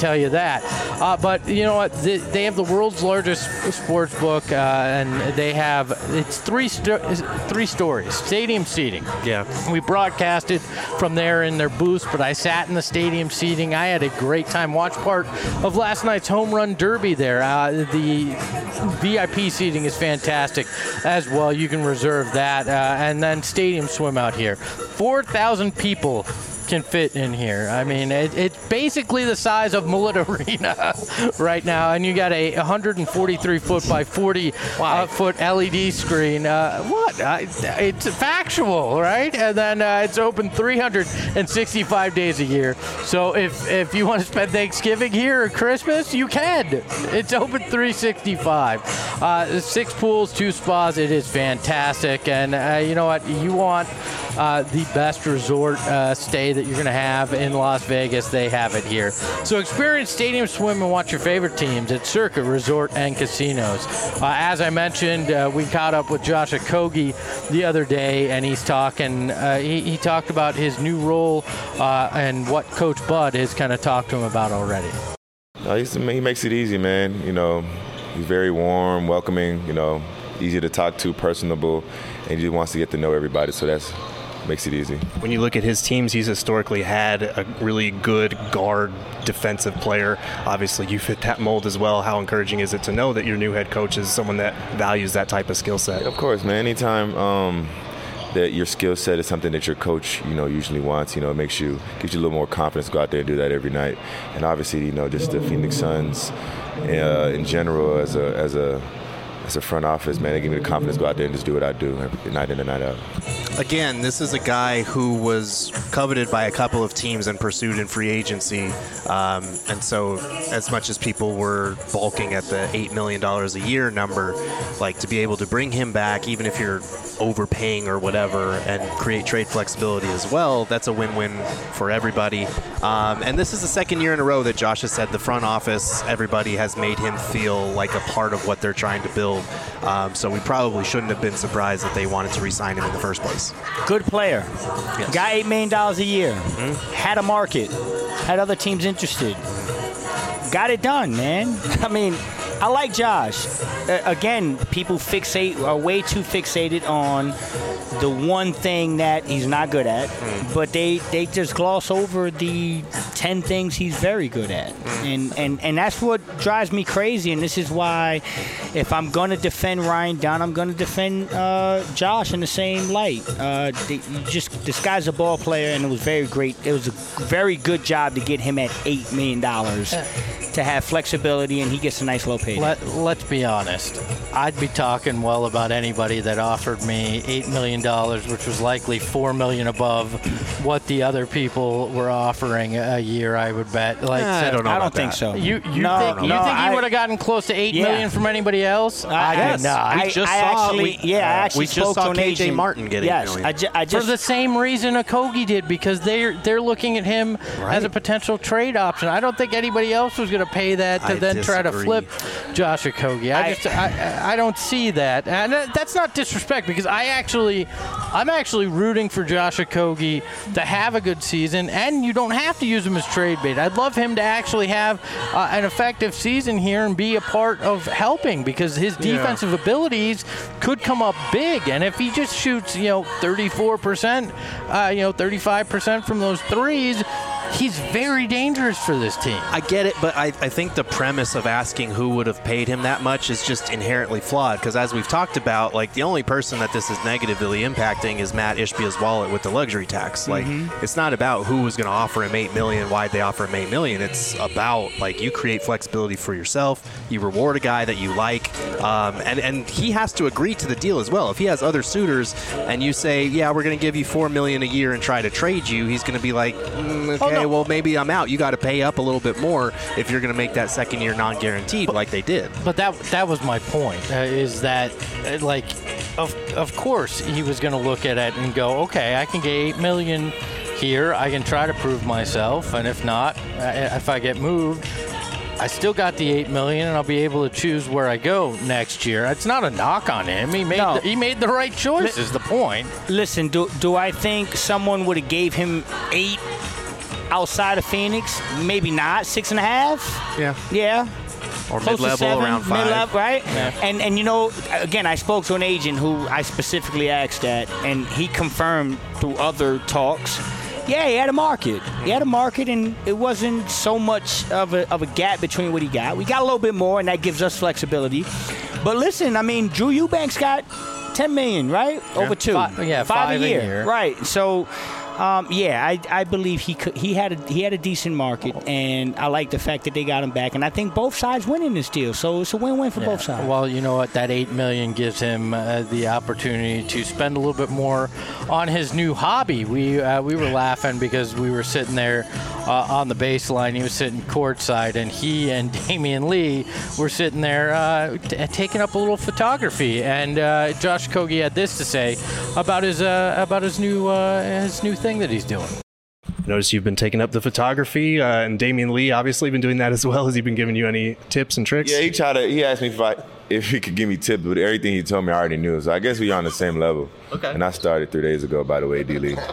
Speaker 1: tell you that. Uh, but you know what? They, they have the world's largest sports book, uh, and they have it's three sto- three stories. Stadium seating.
Speaker 2: Yeah.
Speaker 1: We broadcasted from there in their booths, but I sat in the stadium seating. I had a great time. Watched part of last night's home run derby there. Uh, the V I P seating is fantastic as well. You can reserve that, uh, and then stadium swim out here. four thousand people can fit in here. I mean, it, it's basically the size of Millett Arena right now, and you got a one hundred forty-three foot by forty uh, foot L E D screen. Uh, what? Uh, it's factual, right? And then uh, it's open three hundred sixty-five days a year. So if if you want to spend Thanksgiving here or Christmas, you can. It's open three sixty-five. Uh, six pools, two spas. It is fantastic, and uh, you know what? You want uh, the best resort uh, stay that you're going to have in Las Vegas. They have it here. So experience stadium swim and watch your favorite teams at Circa Resort and Casinos. Uh, as I mentioned, uh, we caught up with Josh Okogie the other day, and he's talking. Uh, he, he talked about his new role uh, and what Coach Bud has kind of talked to him about already.
Speaker 9: Uh, he's, he makes it easy, man. You know, he's very warm, welcoming. You know, easy to talk to, personable, and he wants to get to know everybody. So that's makes it easy.
Speaker 2: When you look at his teams, he's historically had a really good guard defensive player. Obviously, you fit that mold as well. How encouraging is it to know that your new head coach is someone that values that type of skill set?
Speaker 9: Of course, man. Anytime um, that your skill set is something that your coach, you know, usually wants, you know, it makes you, gives you a little more confidence to go out there and do that every night. And obviously, you know, just the Phoenix Suns uh, in general as a as a as a front office, man, they give me the confidence to go out there and just do what I do every night in and night out.
Speaker 2: Again, this is a guy who was coveted by a couple of teams and pursued in free agency. Um, and so as much as people were balking at the eight million dollars a year number, like to be able to bring him back, even if you're overpaying or whatever, and create trade flexibility as well, that's a win-win for everybody. Um, and this is the second year in a row that Josh has said the front office, everybody has made him feel like a part of what they're trying to build. Um, so we probably shouldn't have been surprised that they wanted to re-sign him in the first place.
Speaker 3: Good player.
Speaker 2: Yes.
Speaker 3: Got eight million dollars a year.
Speaker 2: Mm-hmm.
Speaker 3: Had a market. Had other teams interested. Got it done, man. I mean, I like Josh. Uh, again, people fixate are way too fixated on the one thing that he's not good at, mm. but they, they just gloss over the ten things he's very good at. Mm. And, and and that's what drives me crazy, and this is why if I'm going to defend Ryan Dunn, I'm going to defend uh, Josh in the same light. Uh, they, just This guy's a ball player, and it was very great. It was a very good job to get him at eight million dollars. Uh. To have flexibility, and he gets a nice low pay.
Speaker 1: Let, let's be honest. I'd be talking well about anybody that offered me eight million dollars, which was likely four million dollars above what the other people were offering a year, I would bet. Like,
Speaker 2: I don't know
Speaker 3: I
Speaker 2: about
Speaker 3: don't think
Speaker 2: that.
Speaker 3: so.
Speaker 1: You, you
Speaker 3: no,
Speaker 1: think,
Speaker 3: no,
Speaker 1: you
Speaker 3: no,
Speaker 1: think he
Speaker 3: I,
Speaker 1: would have gotten close to eight
Speaker 3: yeah.
Speaker 1: million dollars from anybody else?
Speaker 3: I,
Speaker 1: I
Speaker 3: did
Speaker 1: did not.
Speaker 2: We
Speaker 3: I,
Speaker 2: just
Speaker 3: I
Speaker 2: saw,
Speaker 3: actually,
Speaker 2: we,
Speaker 3: yeah, I actually
Speaker 2: we just
Speaker 3: spoke
Speaker 2: saw
Speaker 3: to an
Speaker 2: K J
Speaker 3: agent.
Speaker 2: Martin get eight
Speaker 3: yes,
Speaker 2: million.
Speaker 3: I, ju- I just
Speaker 1: For the same reason Okogie did, because they're they're looking at him
Speaker 2: Right.
Speaker 1: as a potential trade option. I don't think anybody else was going to pay that to
Speaker 2: I
Speaker 1: then try to
Speaker 2: disagree.
Speaker 1: flip Josh Okogie. I,
Speaker 3: I-
Speaker 1: just I, I don't see that, and that's not disrespect, because I actually I'm actually rooting for Josh Okogie to have a good season, and you don't have to use him as trade bait. I'd love him to actually have uh, an effective season here and be a part of helping, because his defensive yeah. abilities could come up big, and if he just shoots, you know, thirty-four percent, uh, you know, thirty-five percent from those threes, he's very dangerous for this team.
Speaker 2: I get it, but I, I think the premise of asking who would have paid him that much is just inherently flawed, because as we've talked about, like, the only person that this is negatively impacting is Matt Ishbia's wallet with the luxury tax. Like, mm-hmm. it's not about who was going to offer him eight million dollars, why'd they offer him eight million dollars. It's about, like, you create flexibility for yourself, you reward a guy that you like, um, and, and he has to agree to the deal as well. If he has other suitors and you say, yeah, we're going to give you four million dollars a year and try to trade you, he's going to be like, mm, okay, oh, no. well, maybe I'm out. You got to pay up a little bit more if you're going to make that second year non-guaranteed, but, like they did.
Speaker 1: But that that was my point, uh, is that, uh, like, of of course he was going to look at it and go, okay, I can get eight million dollars here. I can try to prove myself, and if not, uh, if I get moved, I still got the eight million dollars, and I'll be able to choose where I go next year. It's not a knock on him. He made
Speaker 3: no.
Speaker 1: the, he made the right choice. L- is the point?
Speaker 3: Listen, do do I think someone would have gave him eight? outside of Phoenix, maybe not six and a half.
Speaker 2: Yeah.
Speaker 3: Yeah.
Speaker 2: Or
Speaker 3: Close to
Speaker 2: mid-level,
Speaker 3: seven,
Speaker 2: around five.
Speaker 3: mid-level, right?
Speaker 2: Yeah.
Speaker 3: And and you know, again, I spoke to an agent who I specifically asked that, and he confirmed through other talks. Yeah, he had a market. He had a market, and it wasn't so much of a of a gap between what he got. We got a little bit more, and that gives us flexibility. But listen, I mean, Drew Eubanks got ten million, right?
Speaker 1: Yeah.
Speaker 3: Over two.
Speaker 1: Five, yeah,
Speaker 3: five,
Speaker 1: five
Speaker 3: a,
Speaker 1: a
Speaker 3: year.
Speaker 1: year.
Speaker 3: Right. So. Um, yeah, I, I believe he could, he had a he had a decent market, and I like the fact that they got him back, and I think both sides win in this deal, so it's a win-win for
Speaker 1: Yeah.
Speaker 3: both sides.
Speaker 1: Well, you know what? That eight million gives him uh, the opportunity to spend a little bit more on his new hobby. We uh, we were laughing because we were sitting there uh, on the baseline. He was sitting courtside, and he and Damian Lee were sitting there uh, t- taking up a little photography. And uh, Josh Okogie had this to say about his uh, about his new uh, his new thing that he's doing.
Speaker 10: Notice you've been taking up the photography, uh, and Damian Lee obviously been doing that as well. Has he been giving you any tips and tricks?
Speaker 9: Yeah, he tried to. He asked me if I if he could give me tips, but everything he told me I already knew. So I guess we're on the same level.
Speaker 10: Okay.
Speaker 9: And I started three days ago, by the way, D. Lee.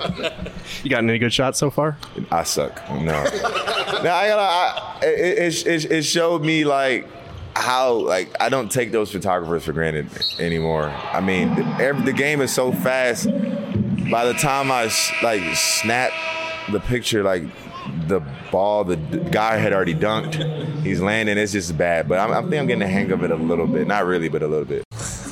Speaker 10: You gotten any good shots so far?
Speaker 9: I suck. No. no, I gotta. I, it, it, it showed me like how like I don't take those photographers for granted anymore. I mean, the, every, the game is so fast. By the time I like snap the picture, like the ball, the guy had already dunked. He's landing. It's just bad. But I'm, I think I'm getting the hang of it a little bit. Not really, but a little bit.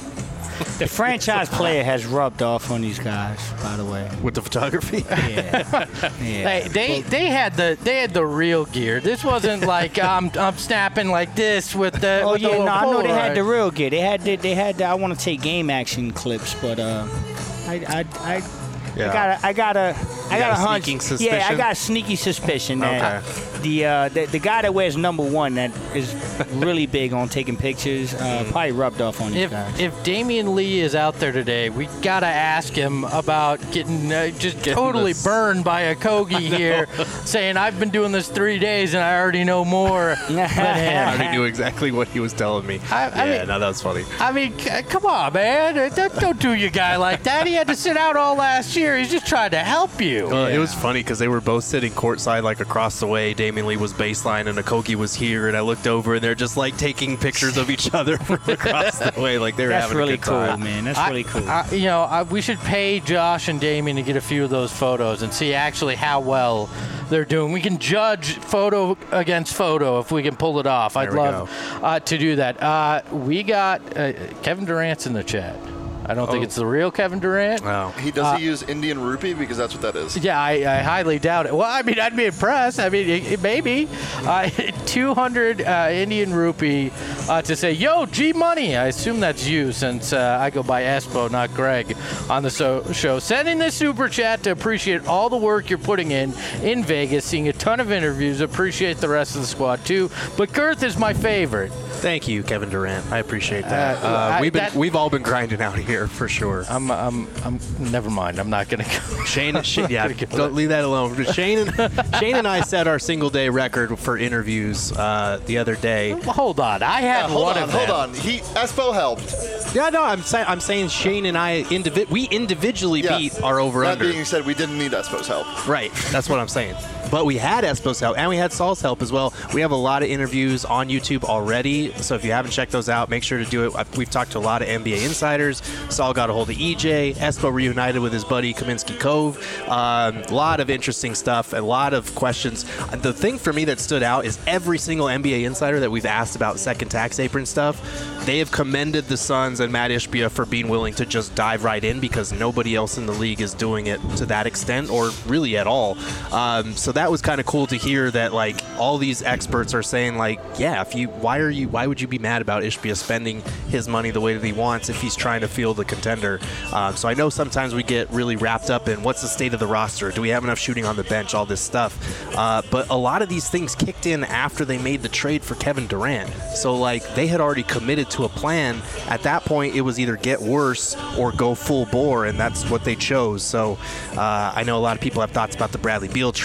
Speaker 3: The franchise player has rubbed off on these guys, by the way.
Speaker 2: With the photography?
Speaker 3: Yeah. yeah.
Speaker 1: Hey, they they had the they had the real gear. This wasn't like I'm I'm snapping like this with the.
Speaker 3: Oh
Speaker 1: with the
Speaker 3: yeah,
Speaker 1: little
Speaker 3: no, I know they had
Speaker 1: Polaroid.
Speaker 3: the real gear. They had the, they had. The, I want to take game action clips, but uh, I I I.
Speaker 2: Yeah.
Speaker 3: I got a, I got a, I got,
Speaker 2: got
Speaker 3: a
Speaker 2: a
Speaker 3: hunch.
Speaker 2: sneaking
Speaker 3: Yeah, I
Speaker 2: suspicion?
Speaker 3: got a sneaky suspicion that
Speaker 2: Okay.
Speaker 3: the, uh, the the guy that wears number one that is really big on taking pictures uh, probably rubbed off on these
Speaker 1: If
Speaker 3: guys.
Speaker 1: if Damian Lee is out there today, we gotta ask him about getting uh, just totally
Speaker 2: this-
Speaker 1: burned by a Kogi here, saying I've been doing this three days and I already know more than
Speaker 2: I
Speaker 1: him.
Speaker 2: already knew exactly what he was telling me.
Speaker 1: I- I
Speaker 2: yeah,
Speaker 1: mean-
Speaker 2: no, that was funny.
Speaker 1: I mean, c- come on, man! Don't, don't do your guy like that. He had to sit out all last year. He's just trying to help you.
Speaker 2: Well, it was funny because they were both sitting courtside, like across the way. Damian Lee was baseline, and Okogie was here. And I looked over, and they're just like taking pictures of each other from across the way, like they were
Speaker 3: That's
Speaker 2: having
Speaker 3: really
Speaker 2: a good
Speaker 3: cool,
Speaker 2: time.
Speaker 3: man. That's
Speaker 1: I-
Speaker 3: really cool.
Speaker 1: I, you know, I, we should pay Josh and Damian to get a few of those photos and see actually how well they're doing. We can judge photo against photo if we can pull it off. I'd
Speaker 2: There we
Speaker 1: love uh, to do that. Uh, we got uh, Kevin Durant's in the chat. I don't think
Speaker 2: Oh.
Speaker 1: it's the real Kevin Durant.
Speaker 2: Wow.
Speaker 8: He does he use Indian rupee because that's what that is.
Speaker 1: Yeah, I, I highly doubt it. Well, I mean, I'd be impressed. I mean, it, it maybe uh, two hundred uh, Indian rupee uh, to say, "Yo, G Money." I assume that's you, since uh, I go by Espo, not Greg, on the so- show. Sending this super chat to appreciate all the work you're putting in in Vegas, seeing a ton of interviews. Appreciate the rest of the squad too. But Girth is my favorite.
Speaker 2: Thank you, Kevin Durant. I appreciate that.
Speaker 1: Uh,
Speaker 2: Uh,
Speaker 1: I-
Speaker 2: we've been
Speaker 1: that-
Speaker 2: we've all been grinding out here for sure.
Speaker 1: I'm, I'm, I'm. Never mind. I'm not gonna go.
Speaker 2: Shane, Shane yeah,
Speaker 1: gonna go
Speaker 2: don't leave that alone. Shane and Shane and I set our single day record for interviews uh, the other day.
Speaker 1: Well, hold on. I had
Speaker 8: Yeah, hold
Speaker 1: one
Speaker 8: on,
Speaker 1: of
Speaker 8: hold
Speaker 1: them.
Speaker 8: on. He Espo helped.
Speaker 2: Yeah, no, I'm saying I'm saying Shane and I indivi- we individually
Speaker 8: Yeah.
Speaker 2: beat our over
Speaker 8: That
Speaker 2: under.
Speaker 8: being said, we didn't need Espo's help.
Speaker 2: Right, that's what I'm saying. But we had Espo's help and we had Saul's help as well. We have a lot of interviews on YouTube already, so if you haven't checked those out, make sure to do it. I've- We've talked to a lot of N B A insiders. Saul got a hold of E J. Espo reunited with his buddy Kaminsky Cove. A um, lot of interesting stuff, a lot of questions. The thing for me that stood out is every single N B A insider that we've asked about second tax apron stuff, they have commended the Suns and Matt Ishbia for being willing to just dive right in because nobody else in the league is doing it to that extent or really at all. Um, so that was kind of cool to hear that like all these experts are saying like, yeah, if you why are you why would you be mad about Ishbia spending his money the way that he wants if he's trying to field a contender? Um, so I know sometimes we get really wrapped up in what's the state of the roster, do we have enough shooting on the bench, all this stuff. Uh, but a lot of these things kicked in after they made the trade for Kevin Durant. So like they had already committed to a plan. At that point, it was either get worse or go full bore, and that's what they chose. So uh, I know a lot of people have thoughts about the Bradley Beal trade and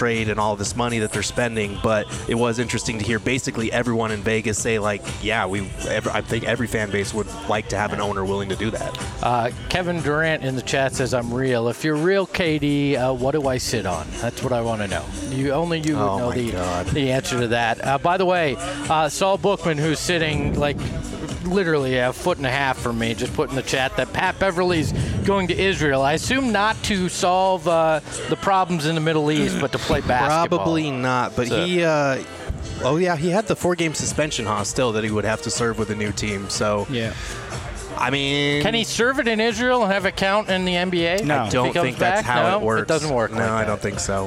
Speaker 2: all this money that they're spending. But it was interesting to hear basically everyone in Vegas say, like, yeah, we. Every, I think every fan base would like to have an owner willing to do that.
Speaker 1: Uh, Kevin Durant in the chat says, I'm real. If you're real, K D, uh, what do I sit on? That's what I want to know. You Only you would
Speaker 2: Oh
Speaker 1: know
Speaker 2: my
Speaker 1: the,
Speaker 2: God.
Speaker 1: the answer to that. Uh, by the way, uh, Saul Bookman, who's sitting like literally a foot and a half from me, just put in the chat that Pat Beverly's going to Israel. I assume not to solve uh, the problems in the Middle East, but to play basketball.
Speaker 2: Probably not, but
Speaker 1: So-
Speaker 2: he. Uh, oh yeah, he had the four-game suspension, huh? Still, that he would have to serve with a new team. So
Speaker 3: Yeah.
Speaker 2: I mean,
Speaker 1: Can he serve it in Israel and have it count in the N B A?
Speaker 3: No.
Speaker 2: I don't
Speaker 1: If he comes
Speaker 2: think that's
Speaker 1: back?
Speaker 2: how
Speaker 1: No?
Speaker 2: it works.
Speaker 1: It doesn't work
Speaker 2: No,
Speaker 1: like
Speaker 2: I
Speaker 1: that.
Speaker 2: don't think so.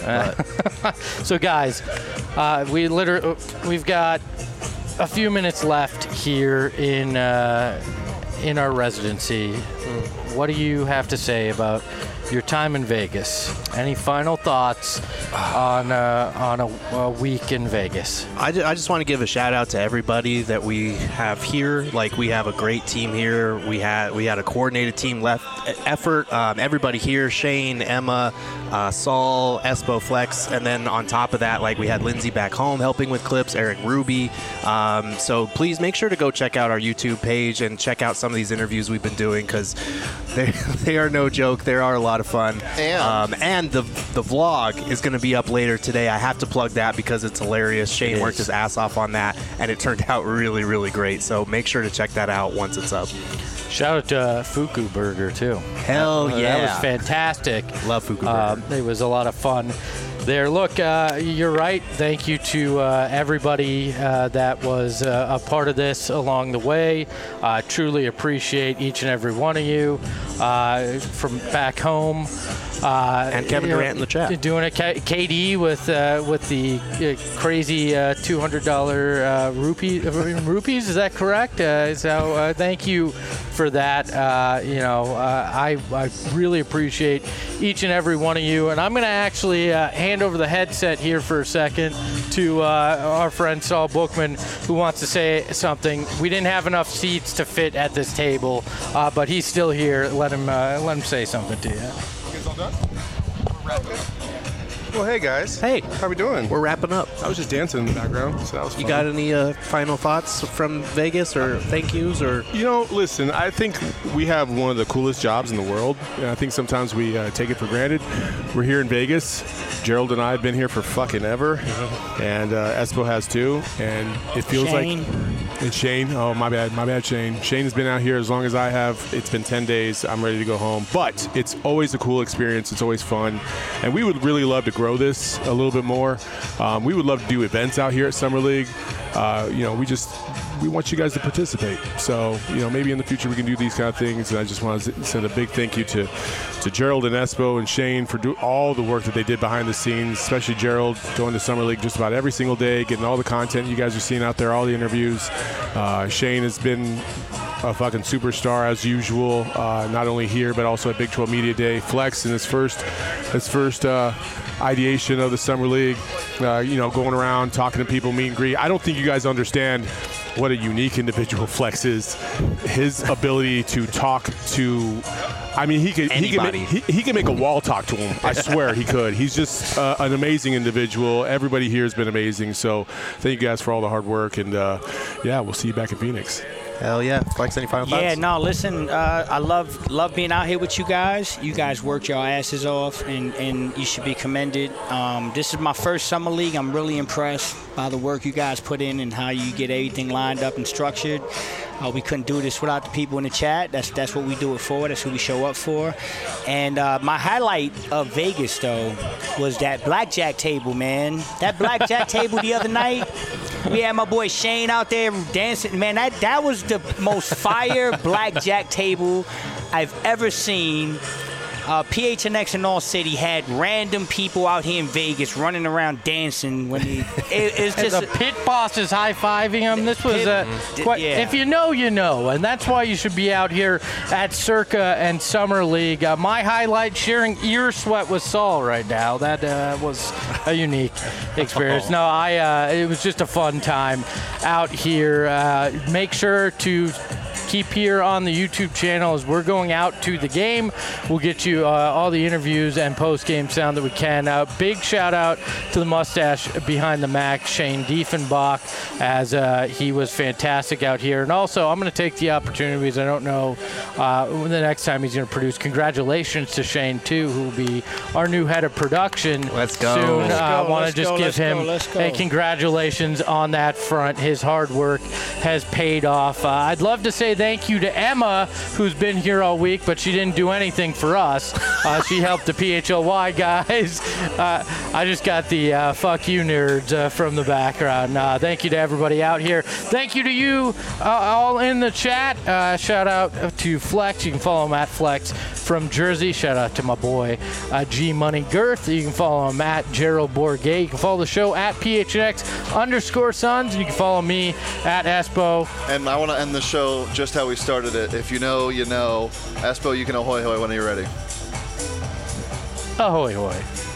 Speaker 1: So, guys, uh, we literally we've got a few minutes left here in uh, in our residency. What do you have to say about your time in Vegas? Any final thoughts on uh, on a, a week in Vegas?
Speaker 2: I, ju- I just want to give a shout out to everybody that we have here. Like, we have a great team here. We had we had a coordinated team left effort. Um, everybody here: Shane, Emma, uh, Saul, Espo, Flex, and then on top of that, like, we had Lindsay back home helping with clips, Eric Ruby. Um, so please make sure to go check out our YouTube page and check out some of these interviews we've been doing, because they they are no joke. They are a lot of fun.
Speaker 8: And-
Speaker 2: um, and the the vlog is going to be up later today. I have to plug that because it's hilarious. Shane
Speaker 1: It
Speaker 2: worked
Speaker 1: is.
Speaker 2: his ass off on that, and it turned out really, really great. So make sure to check that out once it's up.
Speaker 1: Shout out to uh, Fuku Burger too.
Speaker 2: Hell
Speaker 1: Uh,
Speaker 2: yeah.
Speaker 1: That was fantastic.
Speaker 2: Love Fuku
Speaker 1: Uh,
Speaker 2: Burger.
Speaker 1: it was a lot of fun there. Look, uh, you're right. Thank you to uh, everybody uh, that was uh, a part of this along the way. Uh, truly appreciate each and every one of you uh, from back home. Uh,
Speaker 2: And Kevin
Speaker 1: you know,
Speaker 2: Durant in the chat.
Speaker 1: Doing it, K- KD with uh, with the uh, crazy uh, two hundred dollars uh, rupee, uh, rupees. Is that correct? Uh, so uh, thank you for that. Uh, you know, uh, I I really appreciate each and every one of you. And I'm going to actually uh, hand over the headset here for a second to uh, our friend Saul Bookman, who wants to say something. We didn't have enough seats to fit at this table, uh, but he's still here. Let him uh, let him say something to you.
Speaker 11: guys all done? Well, hey guys.
Speaker 2: Hey.
Speaker 11: How we doing?
Speaker 2: We're wrapping up.
Speaker 11: I was just dancing in the background, so that was fun.
Speaker 2: You got any uh, final thoughts from Vegas, or thank yous, or?
Speaker 11: You know, listen, I think we have one of the coolest jobs in the world, and I think sometimes we uh, take it for granted. We're here in Vegas. Gerald and I have been here for fucking ever, and uh, Espo has too, and it feels
Speaker 3: Shane.
Speaker 11: like... And Shane, oh, my bad, my bad, Shane. Shane has been out here as long as I have. It's been ten days. I'm ready to go home. But it's always a cool experience. It's always fun. And we would really love to grow this a little bit more. Um, we would love to do events out here at Summer League. Uh, you know, we just... we want you guys to participate. So, you know, maybe in the future we can do these kind of things. And I just want to send a big thank you to, to Gerald and Espo and Shane for do all the work that they did behind the scenes, especially Gerald going to Summer League just about every single day, getting all the content you guys are seeing out there, all the interviews. Uh, Shane has been a fucking superstar as usual, uh, not only here but also at Big twelve Media Day. Flex in his first, his first uh, ideation of the Summer League, uh, you know, going around talking to people, meet and greet. I don't think you guys understand what a unique individual Flex is. His ability to talk to, I mean, he could he could, make, he, he could make a wall talk to him. I swear he could. He's just uh, an amazing individual. Everybody here has been amazing. So thank you guys for all the hard work. And uh, yeah, we'll see you back in Phoenix.
Speaker 2: Hell yeah. Flex, any final thoughts?
Speaker 3: Yeah, no, listen, uh, I love love being out here with you guys. You guys worked your asses off, and, and you should be commended. Um, this is my first summer league. I'm really impressed by the work you guys put in and how you get everything lined up and structured. Uh, we couldn't do this without the people in the chat. That's that's what we do it for. That's who we show up for. And uh, my highlight of Vegas, though, was that blackjack table, man. That blackjack table the other night. We had my boy Shane out there dancing. Man, that, that was the most fire blackjack table I've ever seen. Uh, P H N X and All City had random people out here in Vegas running around dancing. When he, it, it's
Speaker 1: And
Speaker 3: just
Speaker 1: the pit boss is high-fiving him. This was uh,
Speaker 3: Pit-
Speaker 1: quite,
Speaker 3: yeah.
Speaker 1: if you know, you know, and that's why you should be out here at Circa and Summer League. Uh, my highlight, sharing ear sweat with Saul right now. That uh, was a unique experience. No, I. Uh, it was just a fun time out here. Uh, make sure to keep here on the YouTube channel as we're going out to the game. We'll get you uh, all the interviews and post-game sound that we can. Uh, big shout-out to the mustache behind the Mac, Shane Diefenbach, as uh, he was fantastic out here. And also, I'm going to take the opportunity, because I don't know uh, when the next time he's going to produce. Congratulations to Shane, too, who will be our new head of production.
Speaker 2: Let's go.
Speaker 1: Soon.
Speaker 2: Let's
Speaker 1: uh, I
Speaker 3: go,
Speaker 1: want
Speaker 3: let's
Speaker 1: to just
Speaker 3: go,
Speaker 1: give
Speaker 3: let's
Speaker 1: him
Speaker 3: go, let's go.
Speaker 1: a congratulations on that front. His hard work has paid off. Uh, I'd love to say thank you to Emma, who's been here all week, but she didn't do anything for us. Uh, she helped the P H L Y guys. Uh, I just got the uh, fuck you nerds uh, from the background. Uh, thank you to everybody out here. Thank you to you uh, all in the chat. Uh, shout out to Flex. You can follow him at Flex from Jersey. Shout out to my boy uh, G Money Girth. You can follow him at Gerald Bourget. You can follow the show at P H N X underscore Sons. And you can follow me at Espo.
Speaker 8: And I want to end the show just how we started it. If you know, you know. Espo, you can ahoy hoy when you're ready.
Speaker 1: Ahoy hoy.